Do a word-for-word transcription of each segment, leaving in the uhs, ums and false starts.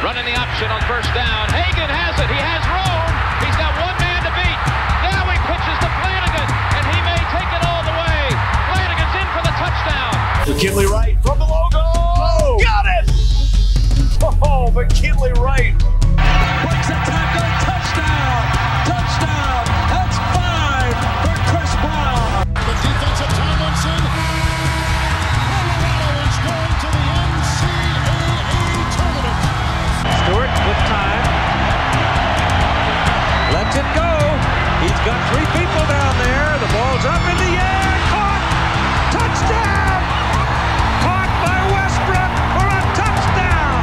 Running the option on first down. Hagan has it. He has room. He's got one man to beat. Now he pitches to Flanagan, and he may take it all the way. Flanagan's in for the touchdown. McKinley Wright from the logo. Oh, got it! Oh, McKinley Wright. Breaks a tackle. Touchdown. Touchdown. That's five for Chris Brown. The defense of Tomlinson. Colorado is going to the N C double A tournament. Stewart with time. Lets it go. He's got three people down there. The ball's up in the air. Caught. Touchdown. Caught by Westbrook for a touchdown.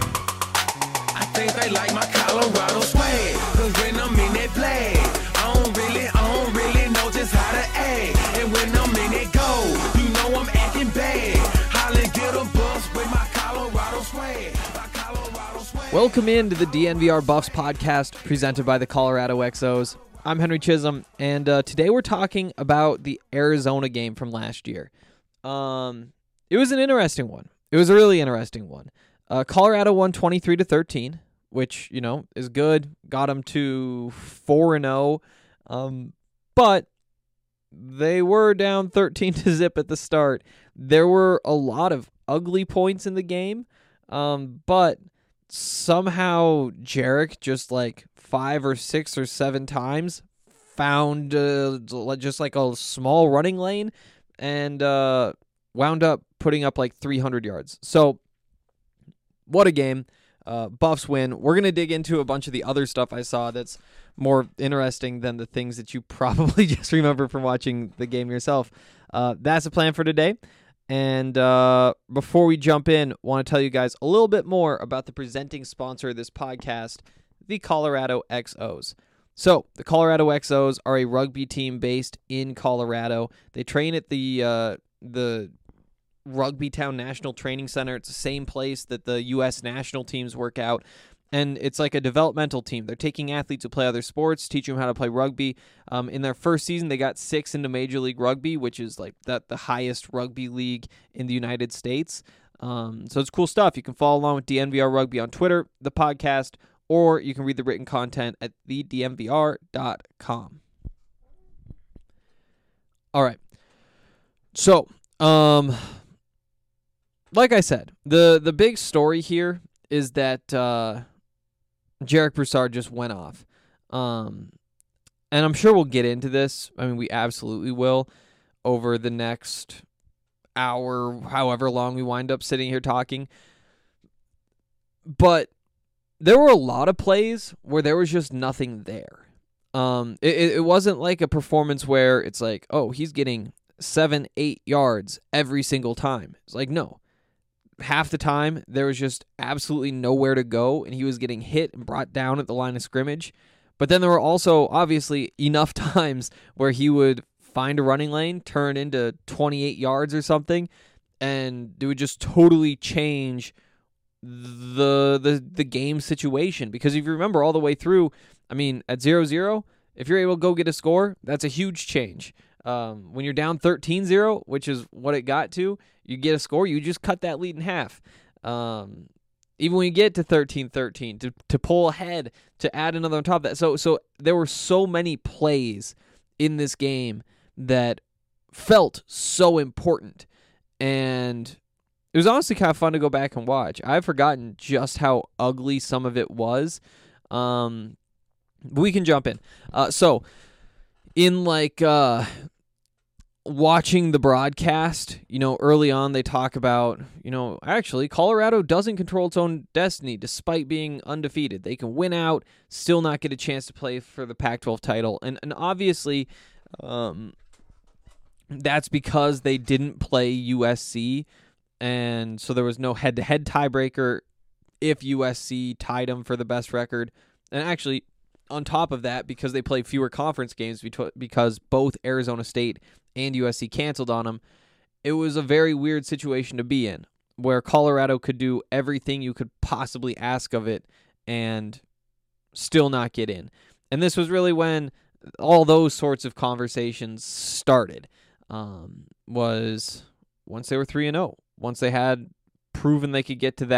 I think they like my Colorado swag. Cause when I'm in that play, I don't really, I don't really know just how to act. And when I'm in that go, you know I'm acting bad. Holly get a bus with my Colorado swag. My Colorado swag. Welcome into the D N V R Buffs podcast presented by the Colorado X Os. I'm Henry Chisholm, and uh, today we're talking about the Arizona game from last year. Um, it was an interesting one. It was a really interesting one. Uh, Colorado won twenty-three to thirteen, which, you know, is good. Got them to four and oh, um, but they were down thirteen to zip at the start. There were a lot of ugly points in the game, um, but somehow Jarek just like five or six or seven times found uh, just like a small running lane and uh, wound up putting up like three hundred yards. So what a game. Uh, Buffs win. We're going to dig into a bunch of the other stuff I saw that's more interesting than the things that you probably just remember from watching the game yourself. Uh, that's the plan for today. And uh, before we jump in, I want to tell you guys a little bit more about the presenting sponsor of this podcast, the Colorado X Os. So, the Colorado X Os are a rugby team based in Colorado. They train at the uh, the Rugby Town National Training Center. It's the same place that the U S national teams work out. And it's like a developmental team. They're taking athletes who play other sports, teaching them how to play rugby. Um, in their first season, they got six into Major League Rugby, which is like the, the highest rugby league in the United States. Um, so it's cool stuff. You can follow along with D N V R Rugby on Twitter, the podcast, or you can read the written content at the d n v r dot com. All right. So, um, like I said, the, the big story here is that uh, Jarek Broussard just went off. Um, and I'm sure we'll get into this. I mean, we absolutely will over the next hour, however long we wind up sitting here talking. But there were a lot of plays where there was just nothing there. Um, it, it wasn't like a performance where it's like, oh, he's getting seven, eight yards every single time. It's like, no. Half the time, there was just absolutely nowhere to go, and he was getting hit and brought down at the line of scrimmage. But then there were also, obviously, enough times where he would find a running lane, turn into twenty-eight yards or something, and it would just totally change the the the game situation. Because if you remember all the way through, I mean, at zero zero, if you're able to go get a score, that's a huge change. Um, when you're down thirteen zero, which is what it got to, you get a score, you just cut that lead in half. Um, even when you get to thirteen thirteen, to, to pull ahead, to add another on top of that. So, so there were so many plays in this game that felt so important. And it was honestly kind of fun to go back and watch. I've forgotten just how ugly some of it was. Um, we can jump in. Uh, so, in like uh, watching the broadcast, you know, early on they talk about, you know, actually Colorado doesn't control its own destiny despite being undefeated. They can win out, still not get a chance to play for the Pac twelve title. And and obviously um, that's because they didn't play U S C, and so there was no head-to-head tiebreaker if U S C tied them for the best record. And actually, on top of that, because they played fewer conference games because both Arizona State and U S C canceled on them, it was a very weird situation to be in, where Colorado could do everything you could possibly ask of it and still not get in. And this was really when all those sorts of conversations started, um, was once they were three and oh, once they had proven they could get to that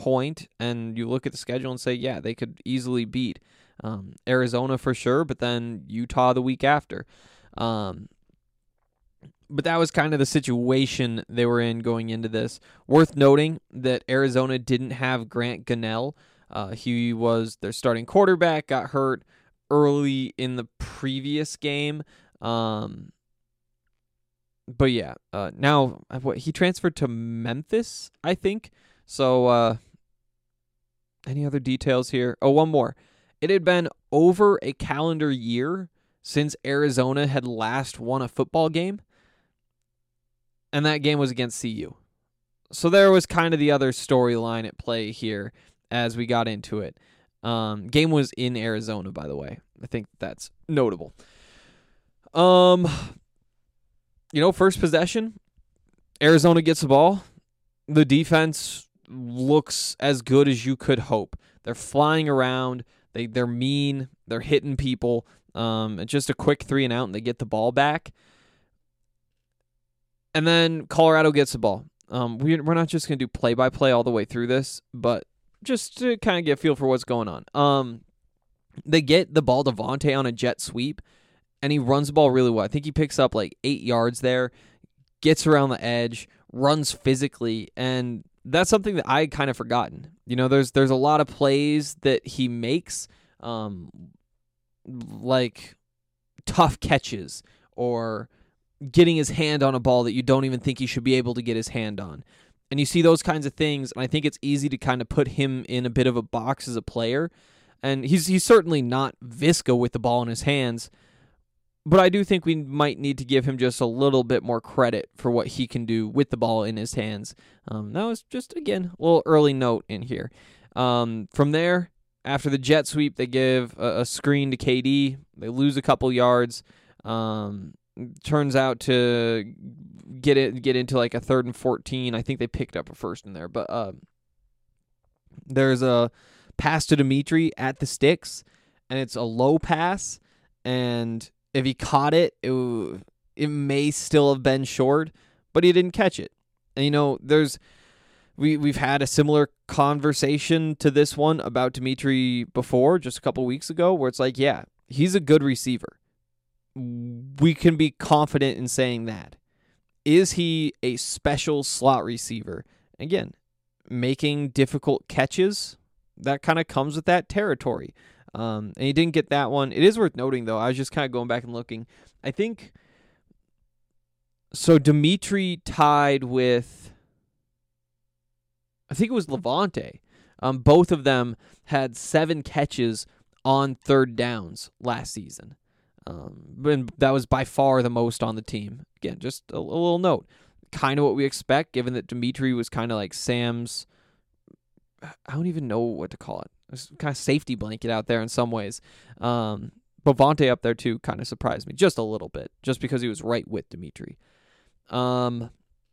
point, and you look at the schedule and say, yeah, they could easily beat um, Arizona for sure, but then Utah the week after. Um, but that was kind of the situation they were in going into this. Worth noting that Arizona didn't have Grant Gunnell. Uh, he was their starting quarterback, got hurt early in the previous game. Um, but yeah, uh, now what he transferred to Memphis, I think. So, uh, any other details here? Oh, one more. It had been over a calendar year since Arizona had last won a football game, and that game was against C U. So there was kind of the other storyline at play here as we got into it. Um, game was in Arizona, by the way. I think that's notable. Um, you know, first possession, Arizona gets the ball. The defense looks as good as you could hope. They're flying around. They, they're mean. They're hitting people. Um, it's just a quick three and out, and they get the ball back. And then Colorado gets the ball. Um, we, we're not just going to do play-by-play all the way through this, but just to kind of get a feel for what's going on. Um, they get the ball to Vontae on a jet sweep, and he runs the ball really well. I think he picks up like eight yards there, gets around the edge, runs physically, and that's something that I had kind of forgotten. You know, there's there's a lot of plays that he makes, um, like tough catches or getting his hand on a ball that you don't even think he should be able to get his hand on. And you see those kinds of things, and I think it's easy to kind of put him in a bit of a box as a player. And he's he's certainly not Visca with the ball in his hands, but I do think we might need to give him just a little bit more credit for what he can do with the ball in his hands. Um, that was just, again, a little early note in here. Um, from there, after the jet sweep, they give a, a screen to K D. They lose a couple yards. Um, turns out to get it get into like a third and fourteen. I think they picked up a first in there, but uh, there's a pass to Dimitri at the sticks, and it's a low pass, and if he caught it, it, it may still have been short, but he didn't catch it. And, you know, there's we, we've had a similar conversation to this one about Dimitri before, just a couple weeks ago, where it's like, yeah, he's a good receiver. We can be confident in saying that. Is he a special slot receiver? Again, making difficult catches, that kind of comes with that territory. Um, and he didn't get that one. It is worth noting, though, I was just kind of going back and looking. I think, so Dimitri tied with, I think it was Levante. Um, both of them had seven catches on third downs last season. Um, and that was by far the most on the team. Again, just a, a little note. Kind of what we expect, given that Dimitri was kind of like Sam's, I don't even know what to call it. It's kind of safety blanket out there in some ways. Um, but Vontae up there, too, kind of surprised me just a little bit, just because he was right with Dimitri. Um,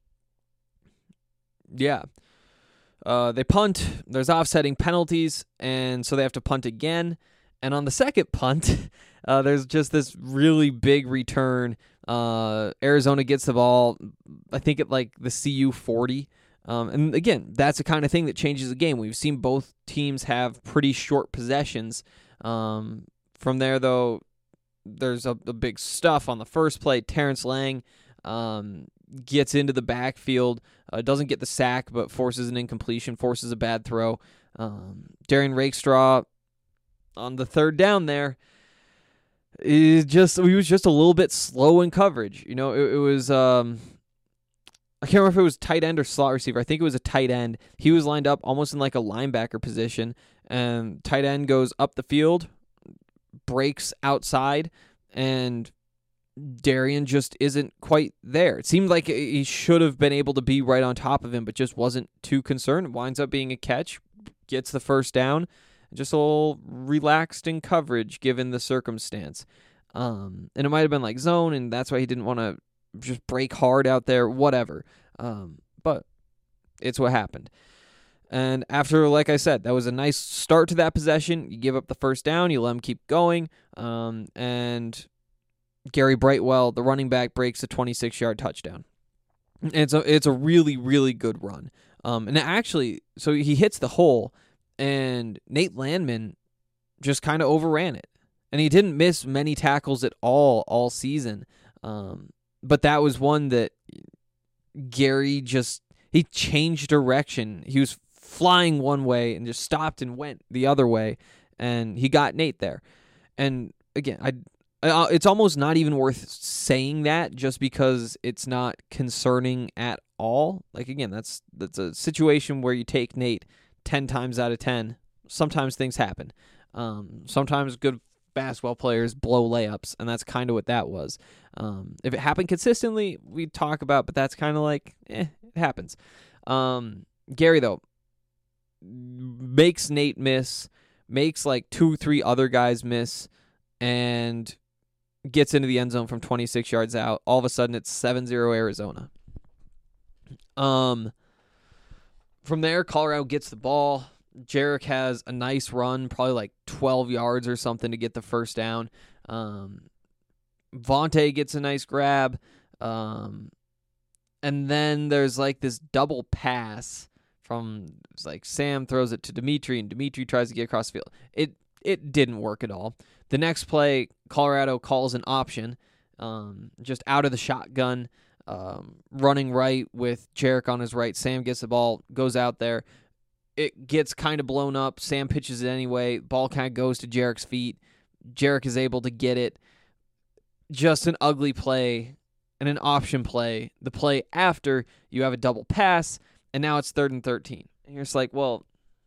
yeah. Uh, they punt. There's offsetting penalties, and so they have to punt again. And on the second punt, uh, there's just this really big return. Uh, Arizona gets the ball, I think at like the C U forty. Um, and again, that's the kind of thing that changes the game. We've seen both teams have pretty short possessions. Um, from there, though, there's a, a big stuff on the first play. Terrence Lang um, gets into the backfield, uh, doesn't get the sack, but forces an incompletion, forces a bad throw. Um, Darian Rakestraw on the third down there, it just he was just a little bit slow in coverage. You know, it, it was. Um, I can't remember if it was tight end or slot receiver. I think it was a tight end. He was lined up almost in like a linebacker position, and tight end goes up the field, breaks outside, and Darian just isn't quite there. It seemed like he should have been able to be right on top of him, but just wasn't too concerned. It winds up being a catch, gets the first down, just a little relaxed in coverage given the circumstance. Um, and it might have been like zone, and that's why he didn't want to just break hard out there, whatever. Um, but it's what happened. And after, like I said, that was a nice start to that possession. You give up the first down, you let them keep going. Um, and Gary Brightwell, the running back, breaks a twenty-six-yard touchdown. And it's a, it's a really, really good run. Um, and actually, so he hits the hole, and Nate Landman just kind of overran it. And he didn't miss many tackles at all all season. Um, but that was one that Gary just, he changed direction. He was flying one way and just stopped and went the other way, and he got Nate there. And again, I, I it's almost not even worth saying that just because it's not concerning at all. Like, again, that's that's a situation where you take Nate ten times out of ten. Sometimes things happen. Um, sometimes good basketball players blow layups, and that's kind of what that was. Um, if it happened consistently, we'd talk about, but that's kind of like, eh, it happens. Um, Gary, though, makes Nate miss, makes like two, three other guys miss, and gets into the end zone from twenty-six yards out. All of a sudden, it's seven zero Arizona. Um, from there, Colorado gets the ball. Jarek has a nice run, probably like twelve yards or something to get the first down. Um, Vontae gets a nice grab. Um, and then there's like this double pass from, it's like Sam throws it to Dimitri, and Dimitri tries to get across the field. It it didn't work at all. The next play, Colorado calls an option, um, just out of the shotgun, um, running right with Jarek on his right. Sam gets the ball, goes out there. It gets kind of blown up. Sam pitches it anyway. Ball kind of goes to Jarek's feet. Jarek is able to get it. Just an ugly play and an option play. The play after, you have a double pass, and now it's third and thirteen. And you're just like, well,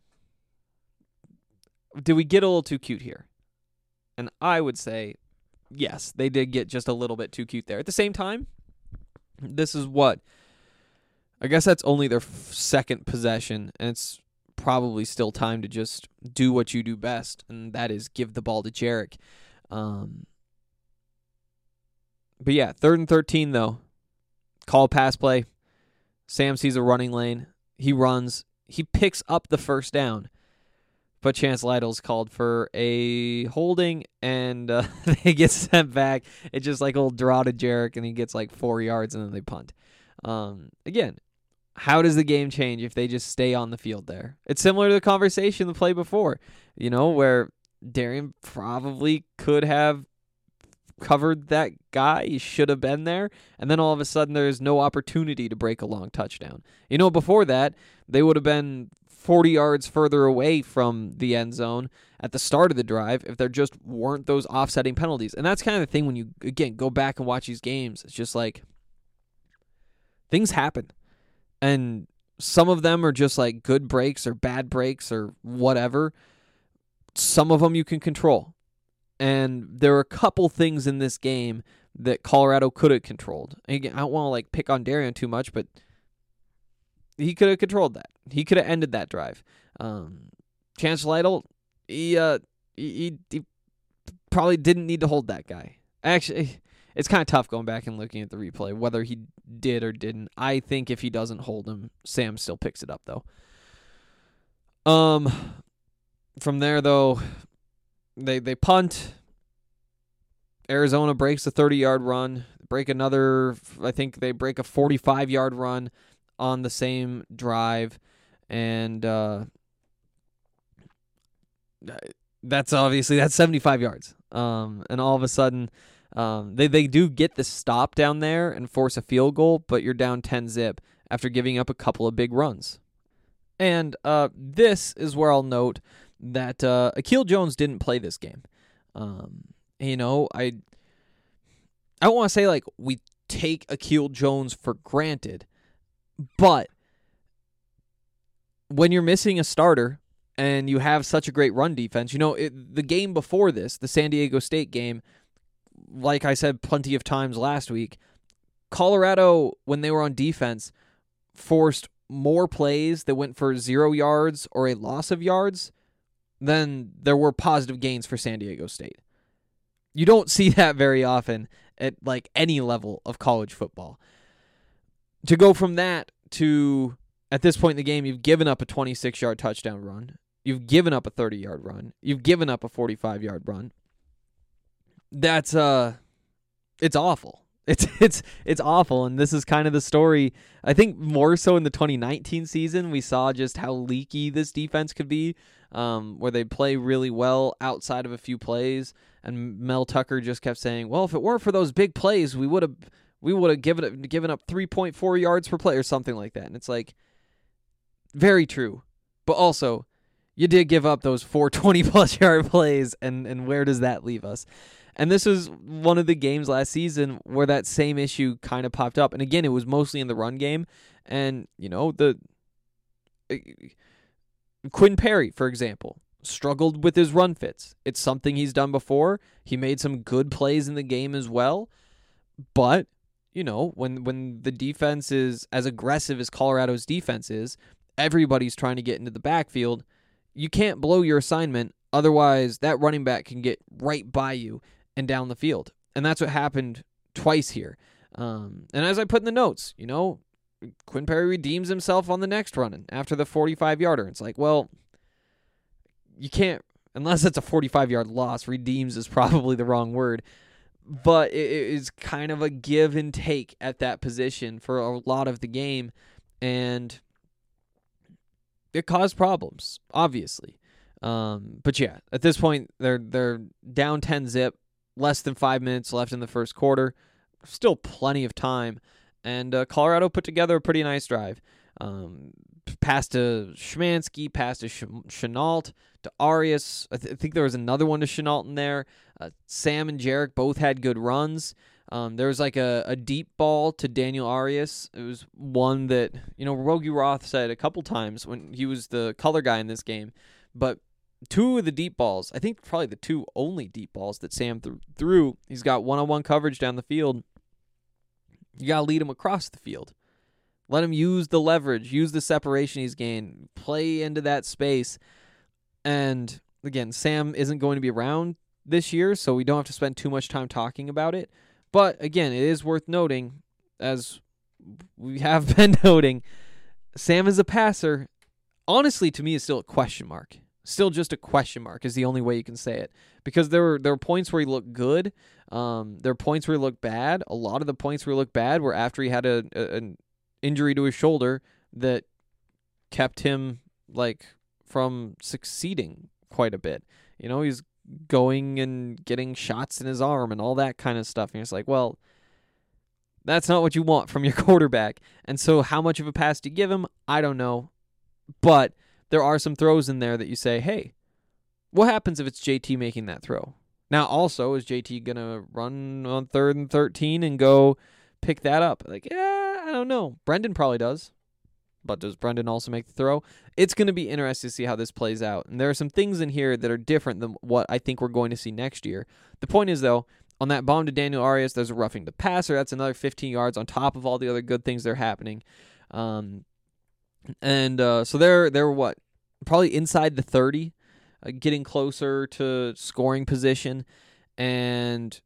did we get a little too cute here? And I would say, yes, they did get just a little bit too cute there. At the same time, this is what? I guess that's only their f- second possession, and it's probably still time to just do what you do best, and that is give the ball to Jarek. Um, but yeah, third and thirteen, though. Call pass play. Sam sees a running lane. He runs. He picks up the first down. But Chance Lytle's called for a holding, and uh, they get sent back. It's just like a little draw to Jarek, and he gets like four yards, and then they punt. Um, again, how does the game change if they just stay on the field there? It's similar to the conversation the play before, you know, where Darian probably could have covered that guy. He should have been there. And then all of a sudden there's no opportunity to break a long touchdown. You know, before that, they would have been forty yards further away from the end zone at the start of the drive if there just weren't those offsetting penalties. And that's kind of the thing when you, again, go back and watch these games. It's just like things happen. And some of them are just like good breaks or bad breaks or whatever. Some of them you can control. And there are a couple things in this game that Colorado could have controlled. And again, I don't want to like pick on Darian too much, but he could have controlled that. He could have ended that drive. Um, Chance Lytle, he, uh, he, he probably didn't need to hold that guy. Actually, it's kind of tough going back and looking at the replay, whether he did or didn't. I think if he doesn't hold him, Sam still picks it up, though. Um, from there, though, they they punt. Arizona breaks a thirty-yard run. Break another, I think they break a forty-five-yard run on the same drive. And uh, that's obviously, that's seventy-five yards. Um, and all of a sudden, Um, they, they do get the stop down there and force a field goal, but you're down ten zip after giving up a couple of big runs. And uh, this is where I'll note that uh, Akil Jones didn't play this game. Um, you know, I I don't want to say like we take Akil Jones for granted, but when you're missing a starter and you have such a great run defense, you know, it, the game before this, the San Diego State game, like I said plenty of times last week, Colorado, when they were on defense, forced more plays that went for zero yards or a loss of yards than there were positive gains for San Diego State. You don't see that very often at like any level of college football. To go from that to, at this point in the game, you've given up a twenty-six-yard touchdown run. You've given up a thirty-yard run. You've given up a forty-five-yard run. That's, uh, it's awful. It's it's it's awful, and this is kind of the story. I think more so in the twenty nineteen season, we saw just how leaky this defense could be, um, where they play really well outside of a few plays, and Mel Tucker just kept saying, "Well, if it weren't for those big plays, we would have we would have given given up three point four yards per play or something like that." And it's like, very true, but also, you did give up those four twenty-plus yard plays, and, and where does that leave us? And this is one of the games last season where that same issue kind of popped up. And again, it was mostly in the run game. And, you know, the uh, Quinn Perry, for example, struggled with his run fits. It's something he's done before. He made some good plays in the game as well. But, you know, when when the defense is as aggressive as Colorado's defense is, everybody's trying to get into the backfield. You can't blow your assignment, otherwise that running back can get right by you and down the field. And that's what happened twice here. Um, and as I put in the notes, you know, Quinn Perry redeems himself on the next run after the forty-five-yarder. It's like, well, you can't, unless it's a forty-five-yard loss, redeems is probably the wrong word. But it is kind of a give and take at that position for a lot of the game. And it caused problems, obviously. Um, but yeah, at this point, they're they're down ten zip, less than five minutes left in the first quarter. Still plenty of time. And uh, Colorado put together a pretty nice drive. Um, pass to Schmansky, pass to Ch- Chenault, to Arias. I, th- I think there was another one to Chenault in there. Uh, Sam and Jarek both had good runs. Um, there was like a, a deep ball to Daniel Arias. It was one that, you know, Rogie Roth said a couple times when he was the color guy in this game. But two of the deep balls, I think probably the two only deep balls that Sam th- threw, he's got one-on-one coverage down the field. You got to lead him across the field. Let him use the leverage, use the separation he's gained, play into that space. And again, Sam isn't going to be around this year, so we don't have to spend too much time talking about it. But again, it is worth noting, as we have been noting, Sam is a passer. Honestly, to me, is still a question mark. Still just a question mark is the only way you can say it. Because there were there were points where he looked good. Um, there were points where he looked bad. A lot of the points where he looked bad were after he had a, a an injury to his shoulder that kept him like from succeeding quite a bit. You know, he's going and getting shots in his arm and all that kind of stuff. And it's like, well, that's not what you want from your quarterback. And so how much of a pass do you give him? I don't know. But there are some throws in there that you say, hey, what happens if it's J T making that throw? Now, also, is J T going to run on third and thirteen and go pick that up? Like, yeah, I don't know. Brendan probably does. But does Brendan also make the throw? It's going to be interesting to see how this plays out. And there are some things in here that are different than what I think we're going to see next year. The point is, though, on that bomb to Daniel Arias, there's a roughing the passer. That's another fifteen yards on top of all the other good things that are happening. Um, and uh, so they're, they're what? Probably inside the thirty, uh, getting closer to scoring position. And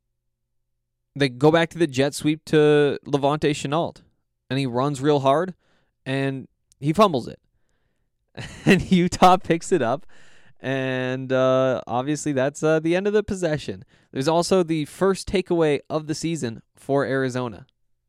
they go back to the jet sweep to Levante Chenault. And he runs real hard. And he fumbles it. And Utah picks it up. And uh, obviously that's uh, the end of the possession. There's also the first takeaway of the season for Arizona.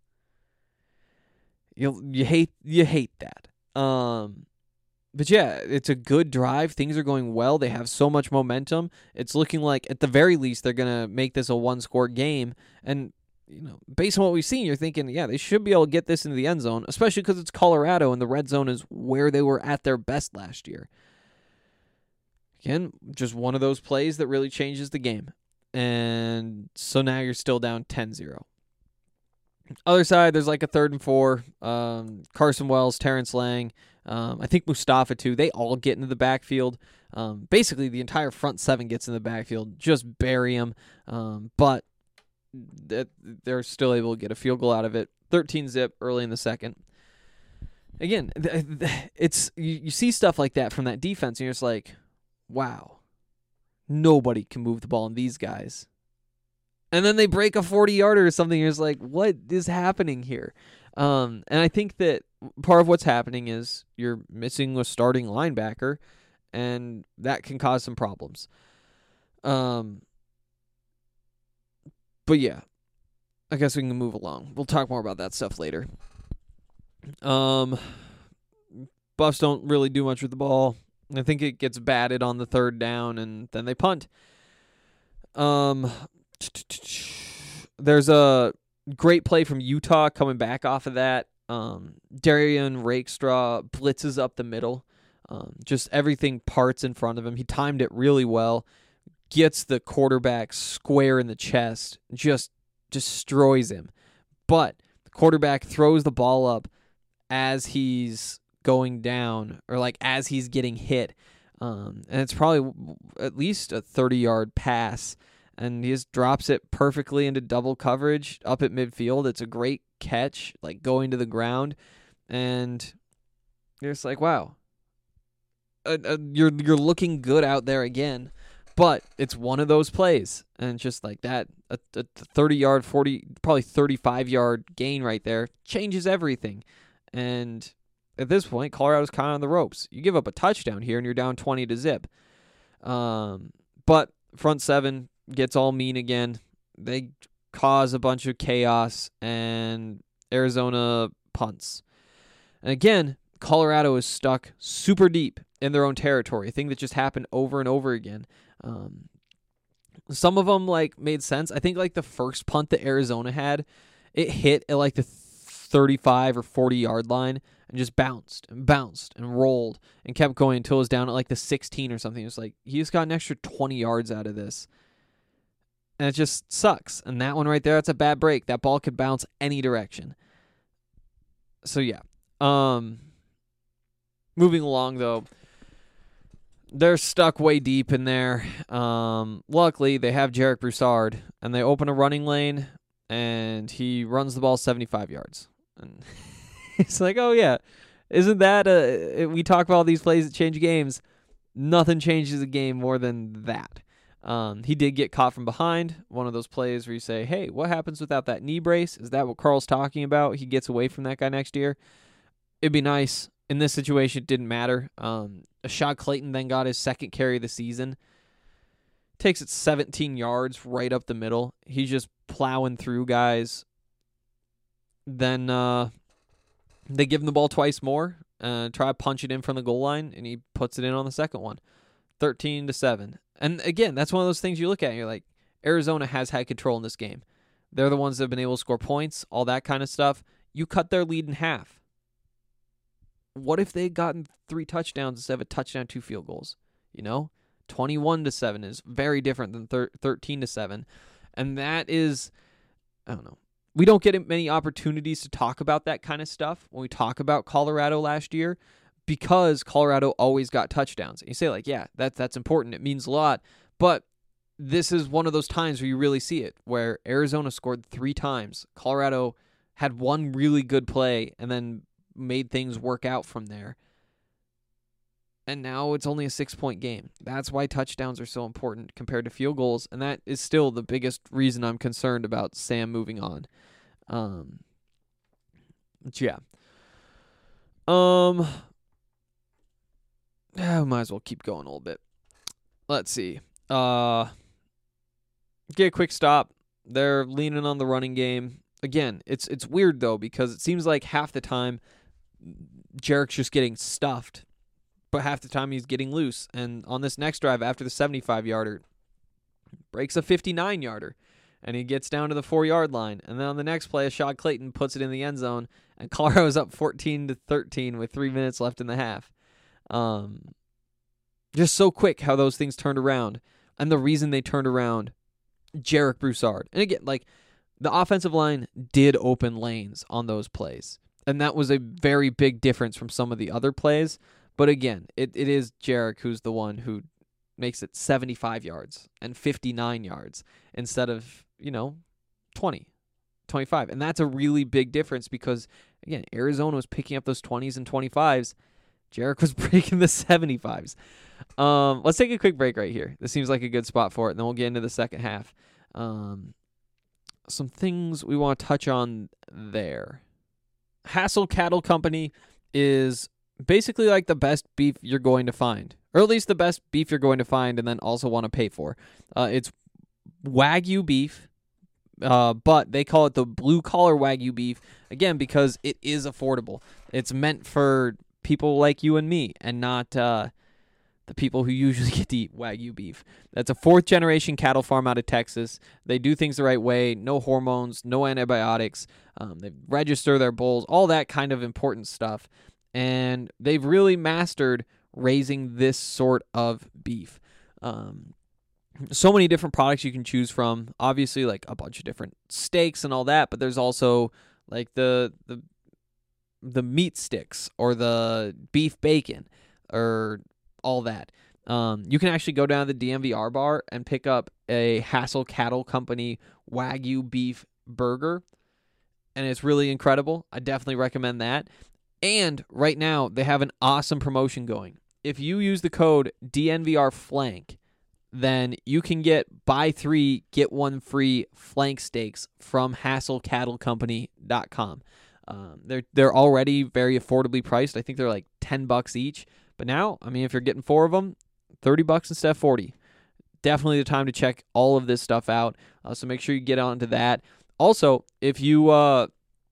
You you hate you hate that. Um, but yeah, it's a good drive. Things are going well. They have so much momentum. It's looking like at the very least they're going to make this a one-score game. And you know, based on what we've seen, you're thinking, yeah, they should be able to get this into the end zone, especially because it's Colorado and the red zone is where they were at their best last year. Again, just one of those plays that really changes the game. And so now you're still down ten zero. Other side, there's like a third and four. Um, Carson Wells, Terrence Lang, um, I think Mustafa too. They all get into the backfield. Um, basically, the entire front seven gets in the backfield. Just bury them. Um, but that they're still able to get a field goal out of it. thirteen zip early in the second. Again, it's you, you see stuff like that from that defense, and you're just like, wow, nobody can move the ball in these guys. And then they break a forty-yarder or something, and you're just like, what is happening here? Um, and I think that part of what's happening is you're missing a starting linebacker, and that can cause some problems. Um. But yeah, I guess we can move along. We'll talk more about that stuff later. Um, Buffs don't really do much with the ball. I think it gets batted on the third down, and then they punt. Um, there's a great play from Utah coming back off of that. Um, Darian Rakestraw blitzes up the middle. Um, just everything parts in front of him. He timed it really well. Gets the quarterback square in the chest. Just destroys him. But the quarterback throws the ball up as he's going down, or like as he's getting hit. Um, and it's probably at least a thirty-yard pass. And he just drops it perfectly into double coverage up at midfield. It's a great catch, like going to the ground. And you're just like, wow. Uh, uh, you're you're looking good out there again. But it's one of those plays. And just like that, a thirty-yard, forty, probably thirty-five-yard gain right there changes everything. And at this point, Colorado's kind of on the ropes. You give up a touchdown here, and you're down twenty to zip. Um, but front seven gets all mean again. They cause a bunch of chaos, and Arizona punts. And again, Colorado is stuck super deep in their own territory, a thing that just happened over and over again. Um, some of them like made sense. I think like the first punt that Arizona had, it hit at like the thirty-five or forty yard line and just bounced and bounced and rolled and kept going until it was down at like the sixteen or something. It was like, he just got an extra twenty yards out of this. And it just sucks. And that one right there, that's a bad break. That ball could bounce any direction. So yeah. Um, moving along though, they're stuck way deep in there. Um, luckily, they have Jarek Broussard, and they open a running lane, and he runs the ball seventy-five yards. And it's like, oh, yeah, isn't that a... We talk about all these plays that change games. Nothing changes a game more than that. Um, he did get caught from behind. One of those plays where you say, hey, what happens without that knee brace? Is that what Carl's talking about? He gets away from that guy next year. It'd be nice. In this situation, it didn't matter. Um, Ashad Clayton then got his second carry of the season. Takes it seventeen yards right up the middle. He's just plowing through guys. Then uh, they give him the ball twice more. Uh, try to punch it in from the goal line, and he puts it in on the second one. thirteen to seven. And again, that's one of those things you look at and you're like, Arizona has had control in this game. They're the ones that have been able to score points, all that kind of stuff. You cut their lead in half. What if they had gotten three touchdowns instead of a touchdown, two field goals? You know, twenty-one to seven is very different than thir- thirteen to seven. And that is, I don't know. We don't get many opportunities to talk about that kind of stuff when we talk about Colorado last year, because Colorado always got touchdowns. And you say like, yeah, that, that's important. It means a lot. But this is one of those times where you really see it, where Arizona scored three times. Colorado had one really good play and then made things work out from there. And now it's only a six-point game. That's why touchdowns are so important compared to field goals, and that is still the biggest reason I'm concerned about Sam moving on. Um, but yeah. Um, I might as well keep going a little bit. Let's see. Uh, get a quick stop. They're leaning on the running game. Again, it's it's weird, though, because it seems like half the time Jarek's just getting stuffed, but half the time he's getting loose. And on this next drive, after the seventy-five-yarder, breaks a fifty-nine-yarder, and he gets down to the four-yard line. And then on the next play, Ashad Clayton puts it in the end zone, and Colorado's up fourteen to thirteen with three minutes left in the half. Um, just so quick how those things turned around. And the reason they turned around, Jarek Broussard. And again, like, the offensive line did open lanes on those plays. And that was a very big difference from some of the other plays. But again, it, it is Jarek who's the one who makes it seventy-five yards and fifty-nine yards instead of, you know, twenty, twenty-five. And that's a really big difference because, again, Arizona was picking up those twenties and twenty-fives. Jarek was breaking the seventy-fives. Um, let's take a quick break right here. This seems like a good spot for it, and then we'll get into the second half. Um, some things we want to touch on there. Hassel Cattle Company is basically like the best beef you're going to find, or at least the best beef you're going to find and then also want to pay for. Uh, it's Wagyu beef, Uh, but they call it the blue collar Wagyu beef, again, because it is affordable. It's meant for people like you and me, and not uh, the people who usually get to eat Wagyu beef. That's a fourth generation cattle farm out of Texas. They do things the right way. No hormones, no antibiotics. Um, they register their bulls, all that kind of important stuff. And they've really mastered raising this sort of beef. Um, so many different products you can choose from. Obviously, like a bunch of different steaks and all that, but there's also like the the the meat sticks or the beef bacon or all that. Um, you can actually go down to the D M V R bar and pick up a Hassel Cattle Company Wagyu beef burger, and it's really incredible. I definitely recommend that. And right now, they have an awesome promotion going. If you use the code D N V R flank, then you can get buy three, get one free flank steaks from hassel cattle company dot com. Um, they're they're already very affordably priced. I think they're like ten bucks each. But now, I mean, if you're getting four of them, thirty bucks instead of forty. Definitely the time to check all of this stuff out. Uh, so make sure you get onto that. Also, if you uh,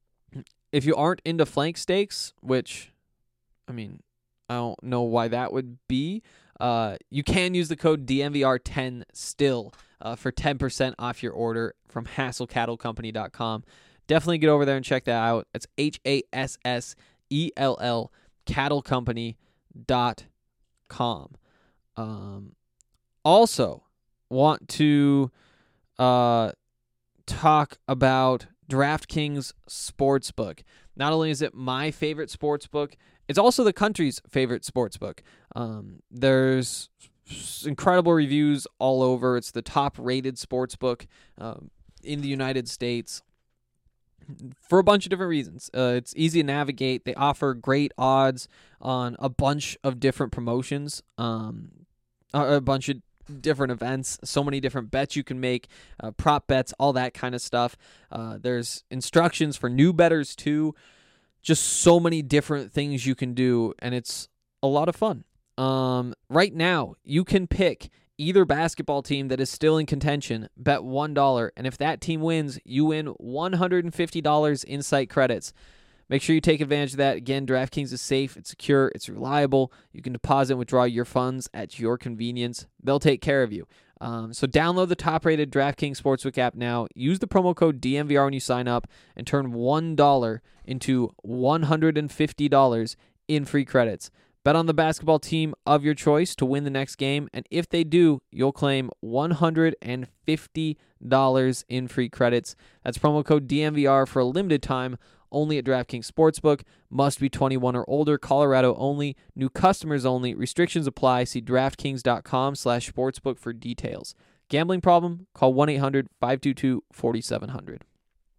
if you aren't into flank steaks, which, I mean, I don't know why that would be, uh, you can use the code D N V R ten still uh, for ten percent off your order from hassel cattle company dot com. Definitely get over there and check that out. It's H A S S E L L cattle company dot com. Um, also, want to uh, talk about DraftKings Sportsbook. Not only is it my favorite sportsbook, it's also the country's favorite sportsbook. Um, there's incredible reviews all over. It's the top-rated sportsbook um, in the United States for a bunch of different reasons. Uh, it's easy to navigate. They offer great odds on a bunch of different promotions, um, a bunch of different events, so many different bets you can make, uh, prop bets, all that kind of stuff. Uh, there's instructions for new bettors too. Just so many different things you can do, and it's a lot of fun. Um, right now, you can pick either basketball team that is still in contention, bet one dollar, and if that team wins, you win one hundred fifty dollars in site credits. Make sure you take advantage of that. Again, DraftKings is safe, it's secure, it's reliable. You can deposit and withdraw your funds at your convenience. They'll take care of you. Um, so download the top-rated DraftKings Sportsbook app now. Use the promo code D N V R when you sign up and turn one dollar into one hundred fifty dollars in free credits. Bet on the basketball team of your choice to win the next game, and if they do, you'll claim one hundred fifty dollars in free credits. That's promo code D N V R for a limited time, only at DraftKings Sportsbook. Must be twenty-one or older. Colorado only. New customers only. Restrictions apply. See DraftKings.com slash sportsbook for details. Gambling problem? Call one eight hundred five two two four seven zero zero.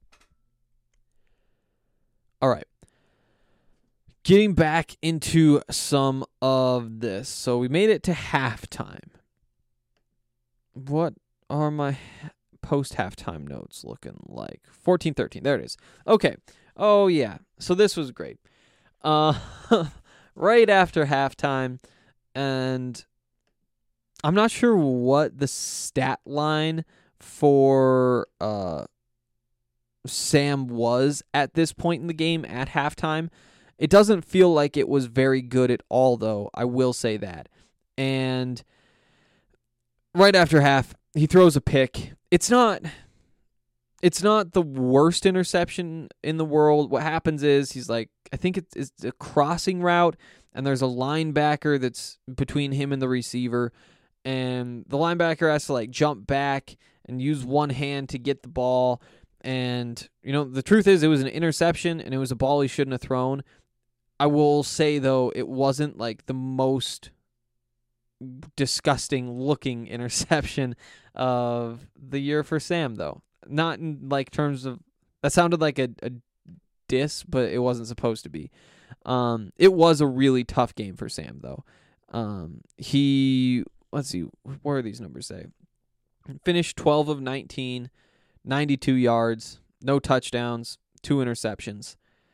All right. Getting back into some of this. So we made it to halftime. What are my post-halftime notes looking like? fourteen thirteen. There it is. Okay. Oh, yeah. So this was great. Uh, right after halftime, and I'm not sure what the stat line for uh, Sam was at this point in the game at halftime. It doesn't feel like it was very good at all, though. I will say that. And right after half, he throws a pick. It's not it's not the worst interception in the world. What happens is he's like, I think it's, it's a crossing route, and there's a linebacker that's between him and the receiver, and the linebacker has to like jump back and use one hand to get the ball. And, you know, the truth is it was an interception, and it was a ball he shouldn't have thrown. I will say, though, it wasn't like the most disgusting looking interception of the year for Sam, though. Not in like terms of, that sounded like a, a diss, but it wasn't supposed to be. Um, it was a really tough game for Sam, though. Um, he, let's see, what are these numbers say? Finished twelve of nineteen, ninety-two yards, no touchdowns, two interceptions.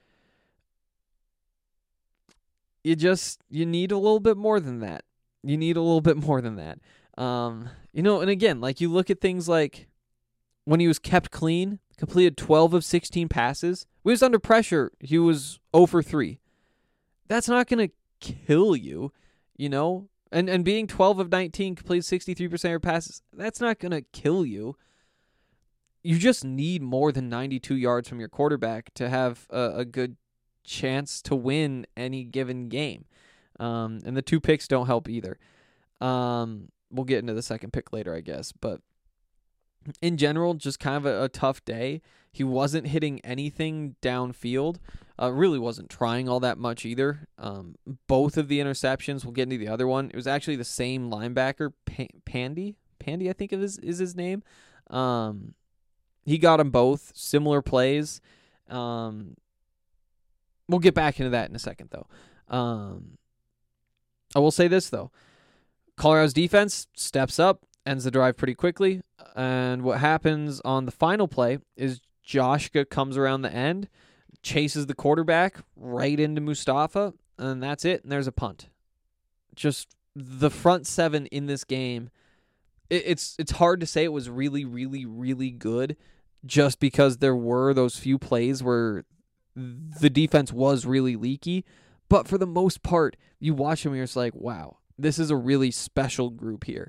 You just, you need a little bit more than that. You need a little bit more than that. Um, you know, and again, like you look at things like when he was kept clean, completed twelve of sixteen passes. When he was under pressure, he was zero for three. That's not going to kill you, you know? And and being twelve of nineteen, completed sixty-three percent of your passes, that's not going to kill you. You just need more than ninety-two yards from your quarterback to have a, a good chance to win any given game. Um, and the two picks don't help either. Um, we'll get into the second pick later, I guess. But in general, just kind of a, a tough day. He wasn't hitting anything downfield. Uh, really wasn't trying all that much either. Um, both of the interceptions, we'll get into the other one. It was actually the same linebacker, pa- Pandy. Pandy, I think of his, is his name. Um, he got them both. Similar plays. Um, we'll get back into that in a second, though. Um, I will say this, though. Colorado's defense steps up, ends the drive pretty quickly. And what happens on the final play is Joshka comes around the end, chases the quarterback right into Mustafa, and that's it, and there's a punt. Just the front seven in this game, it, it's it's hard to say it was really, really, really good just because there were those few plays where the defense was really leaky, but for the most part, you watch them and you're just like, wow, this is a really special group here.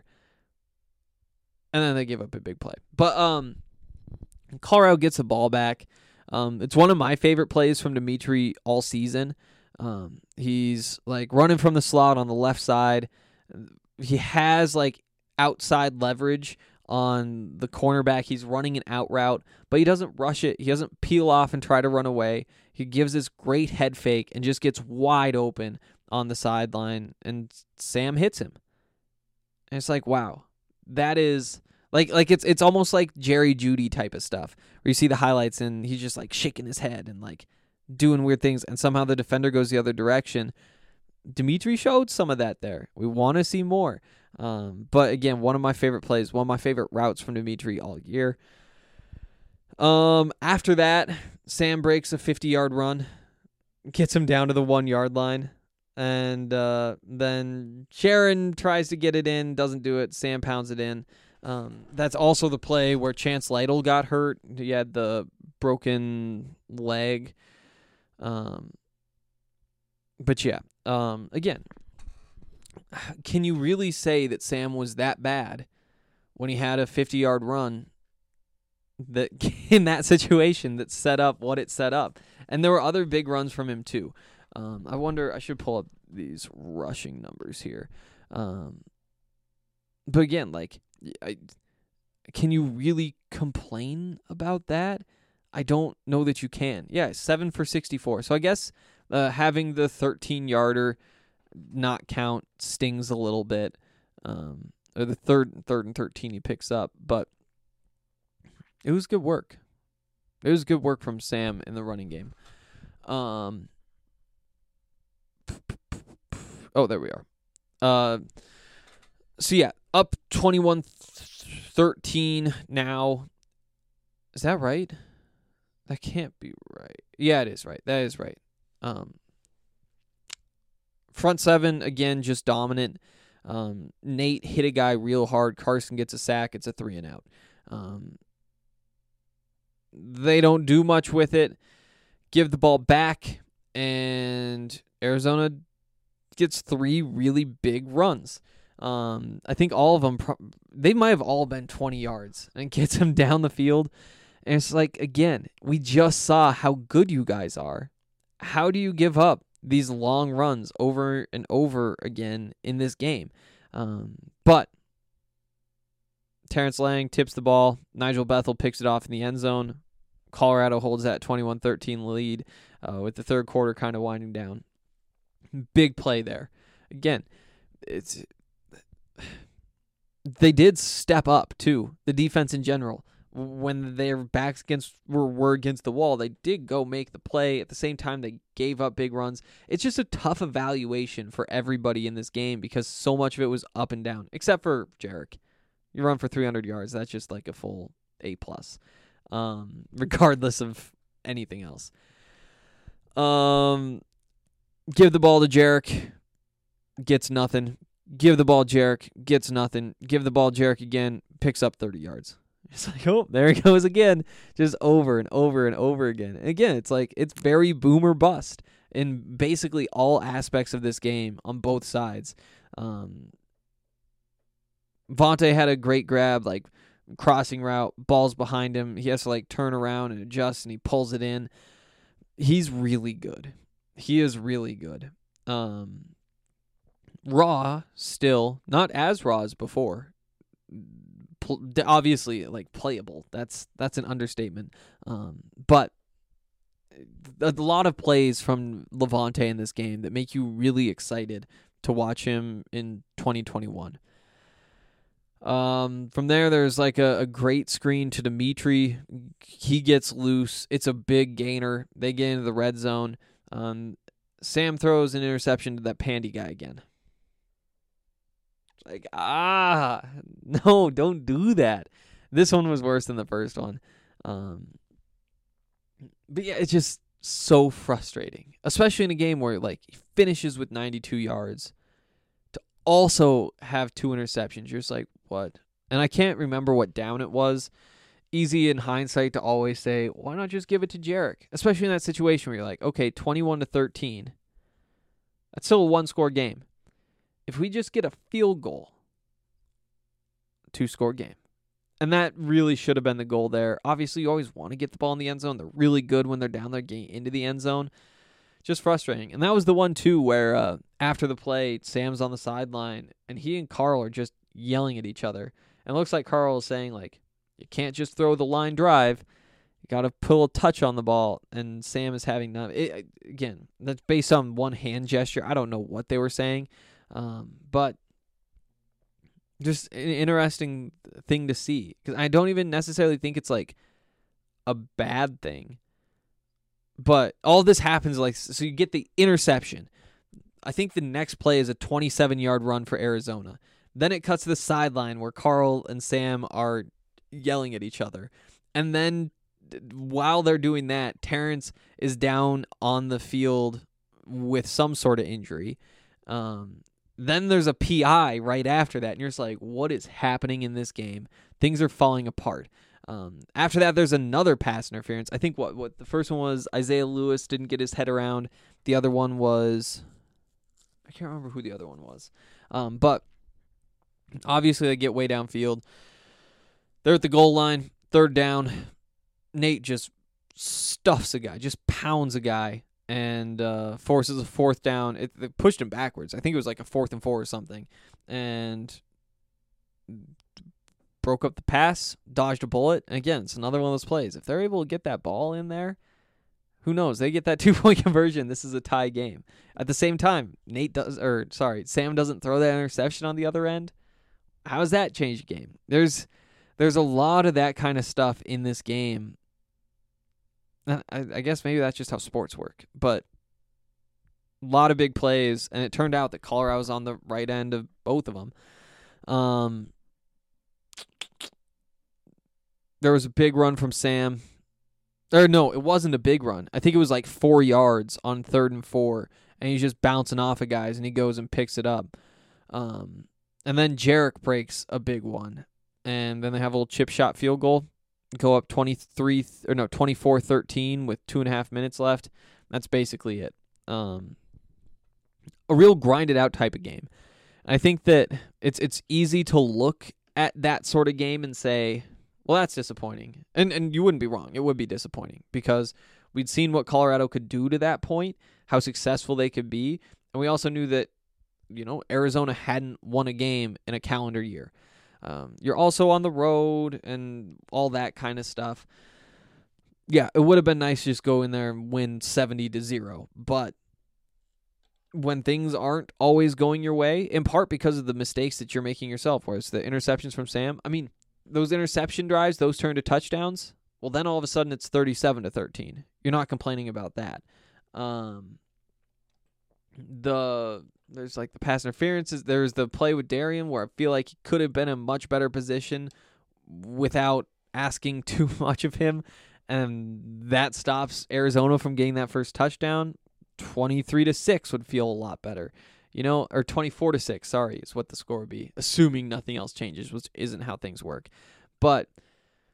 And then they give up a big play. But um, Colorado gets the ball back. Um, it's one of my favorite plays from Dimitri all season. Um, he's like running from the slot on the left side. He has like outside leverage on the cornerback. He's running an out route, but he doesn't rush it. He doesn't peel off and try to run away. He gives this great head fake and just gets wide open on the sideline, and Sam hits him. And it's like, wow, that is like like it's it's almost like Jerry Jeudy type of stuff where you see the highlights and he's just like shaking his head and like doing weird things, and somehow the defender goes the other direction. Dimitri showed some of that there. We want to see more. Um, but again, one of my favorite plays, one of my favorite routes from Dimitri all year. Um, after that, Sam breaks a fifty-yard run, gets him down to the one-yard line, and uh, then Sharon tries to get it in, doesn't do it. Sam pounds it in. Um, that's also the play where Chance Lytle got hurt. He had the broken leg. Um, but yeah, um, again, can you really say that Sam was that bad when he had a fifty-yard run that in that situation that set up what it set up? And there were other big runs from him too. Um, I wonder, I should pull up these rushing numbers here. Um, but again, like, I, can you really complain about that? I don't know that you can. Yeah, seven for sixty-four. So I guess uh, having the thirteen-yarder not count stings a little bit. Um, or the third, third and thirteen he picks up, but it was good work. It was good work from Sam in the running game. Um. Oh, there we are. Uh. So yeah, up twenty-one thirteen now. Is that right? That can't be right. Yeah, it is right. That is right. Um. Front seven, again, just dominant. Um, Nate hit a guy real hard. Carson gets a sack. It's a three and out. Um, they don't do much with it. Give the ball back, and Arizona gets three really big runs. Um, I think all of them, pro- they might have all been twenty yards, and gets them down the field. And it's like, again, we just saw how good you guys are. How do you give up these long runs over and over again in this game? Um, but Terrence Lang tips the ball. Nigel Bethel picks it off in the end zone. Colorado holds that twenty-one thirteen lead uh, with the third quarter kind of winding down. Big play there. Again, it's they did step up, too, the defense in general. When their backs against were, were against the wall, they did go make the play. At the same time, they gave up big runs. It's just a tough evaluation for everybody in this game because so much of it was up and down, except for Jarek. You run for three hundred yards. That's just like a full A plus, um, regardless of anything else. Um, give the ball to Jarek, gets nothing. Give the ball Jarek, gets nothing. Give the ball Jarek again, picks up thirty yards. It's like, oh, there he goes again, just over and over and over again. And again, it's like it's very boomer bust in basically all aspects of this game on both sides. Um, Vontae had a great grab, like crossing route, ball's behind him. He has to like turn around and adjust, and he pulls it in. He's really good. He is really good. Um, raw, still not as raw as before. Pl- obviously, like playable. That's that's an understatement. Um, but a lot of plays from Lavonte in this game that make you really excited to watch him in twenty twenty-one. Um, from there, there's like a, a great screen to Dimitri. He gets loose. It's a big gainer. They get into the red zone. Um, Sam throws an interception to that Pandy guy again. Like, ah, no, don't do that. This one was worse than the first one. Um, but yeah, it's just so frustrating, especially in a game where like he finishes with ninety-two yards to also have two interceptions. You're just like, what? And I can't remember what down it was. Easy in hindsight to always say, why not just give it to Jarek? Especially in that situation where you're like, okay, twenty-one to thirteen. That's still a one-score game. If we just get a field goal, two-score game. And that really should have been the goal there. Obviously, you always want to get the ball in the end zone. They're really good when they're down there getting into the end zone. Just frustrating. And that was the one, too, where uh, after the play, Sam's on the sideline, and he and Carl are just yelling at each other. And it looks like Carl is saying, like, you can't just throw the line drive. You got to pull a touch on the ball. And Sam is having none. It, again, that's based on one hand gesture. I don't know what they were saying. Um, but just an interesting thing to see, because I don't even necessarily think it's like a bad thing, but all this happens like, so you get the interception. I think the next play is a twenty-seven yard run for Arizona. Then it cuts to the sideline where Carl and Sam are yelling at each other. And then while they're doing that, Terrence is down on the field with some sort of injury. Um, Then there's a P I right after that, and you're just like, what is happening in this game? Things are falling apart. Um, after that, there's another pass interference. I think what what the first one was Isaiah Lewis didn't get his head around. The other one was, I can't remember who the other one was. Um, but obviously they get way downfield. They're at the goal line, third down. Nate just stuffs a guy, just pounds a guy. And uh, forces a fourth down. It, it pushed him backwards. I think it was like a fourth and four or something. And broke up the pass, dodged a bullet. And again, it's another one of those plays. If they're able to get that ball in there, who knows? They get that two-point conversion. This is a tie game. At the same time, Nate does, or sorry, Sam doesn't throw that interception on the other end. How does that change the game? There's, there's a lot of that kind of stuff in this game. I, I guess maybe that's just how sports work, but a lot of big plays, and it turned out that Colorado was on the right end of both of them. Um, there was a big run from Sam. Or no, it wasn't a big run. I think it was like four yards on third and four, and he's just bouncing off of guys, and he goes and picks it up. Um, and then Jarek breaks a big one, and then they have a little chip shot field goal. Go up twenty-three or no twenty-four thirteen with two and a half minutes left. That's basically it. Um, a real grinded out type of game. I think that it's it's easy to look at that sort of game and say, well, that's disappointing. And and you wouldn't be wrong. It would be disappointing because we'd seen what Colorado could do to that point, how successful they could be, and we also knew that, you know, Arizona hadn't won a game in a calendar year. Um, you're also on the road and all that kind of stuff. Yeah, it would have been nice to just go in there and win seventy to zero. But when things aren't always going your way, in part because of the mistakes that you're making yourself, whereas the interceptions from Sam, I mean, those interception drives, those turn to touchdowns. Well, then all of a sudden it's thirty-seven to thirteen. You're not complaining about that. Um, the There's like the pass interferences. There's the play with Darian where I feel like he could have been in a much better position without asking too much of him. And that stops Arizona from getting that first touchdown. twenty-three to six would feel a lot better. You know, or twenty-four to six, sorry, is what the score would be, assuming nothing else changes, which isn't how things work. But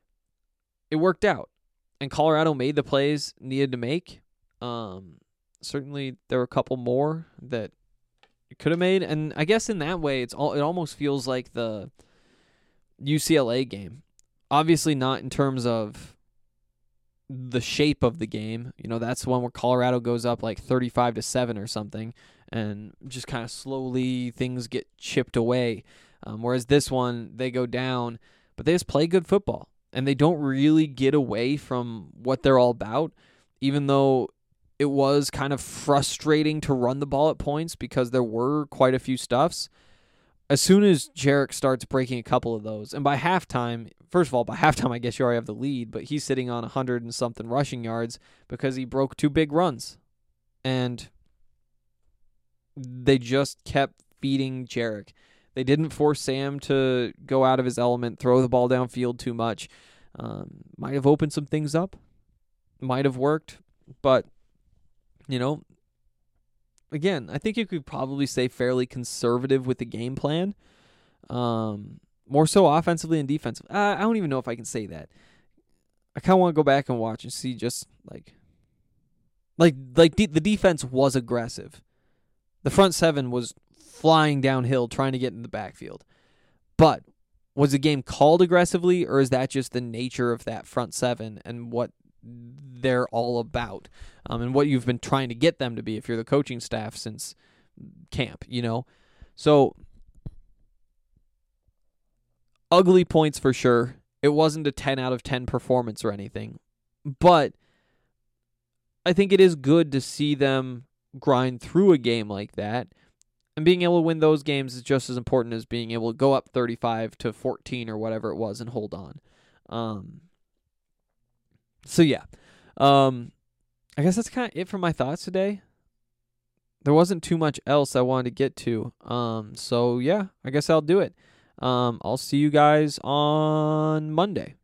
it worked out. And Colorado made the plays needed to make. Um, certainly there were a couple more that it could have made. And I guess in that way, it's all, it almost feels like the U C L A game. Obviously not in terms of the shape of the game. You know, that's the one where Colorado goes up like thirty-five to seven or something, and just kind of slowly things get chipped away. Um, whereas this one, they go down, but they just play good football, and they don't really get away from what they're all about, even though it was kind of frustrating to run the ball at points because there were quite a few stuffs. As soon as Jarek starts breaking a couple of those, and by halftime, first of all, by halftime, I guess you already have the lead, but he's sitting on one hundred and something rushing yards because he broke two big runs. And they just kept feeding Jarek. They didn't force Sam to go out of his element, throw the ball downfield too much. Um, might have opened some things up. Might have worked. But, you know, again, I think you could probably say fairly conservative with the game plan. Um, more so offensively and defensively. I, I don't even know if I can say that. I kind of want to go back and watch and see just like, like, like de- the defense was aggressive. The front seven was flying downhill trying to get in the backfield. But was the game called aggressively, or is that just the nature of that front seven and what they're all about, um, and what you've been trying to get them to be if you're the coaching staff since camp, you know? So, ugly points for sure. It wasn't a ten out of ten performance or anything, but I think it is good to see them grind through a game like that, and being able to win those games is just as important as being able to go up thirty-five to fourteen or whatever it was and hold on. Um, so yeah, um, I guess that's kind of it for my thoughts today. There wasn't too much else I wanted to get to. Um, so yeah, I guess I'll do it. Um, I'll see you guys on Monday.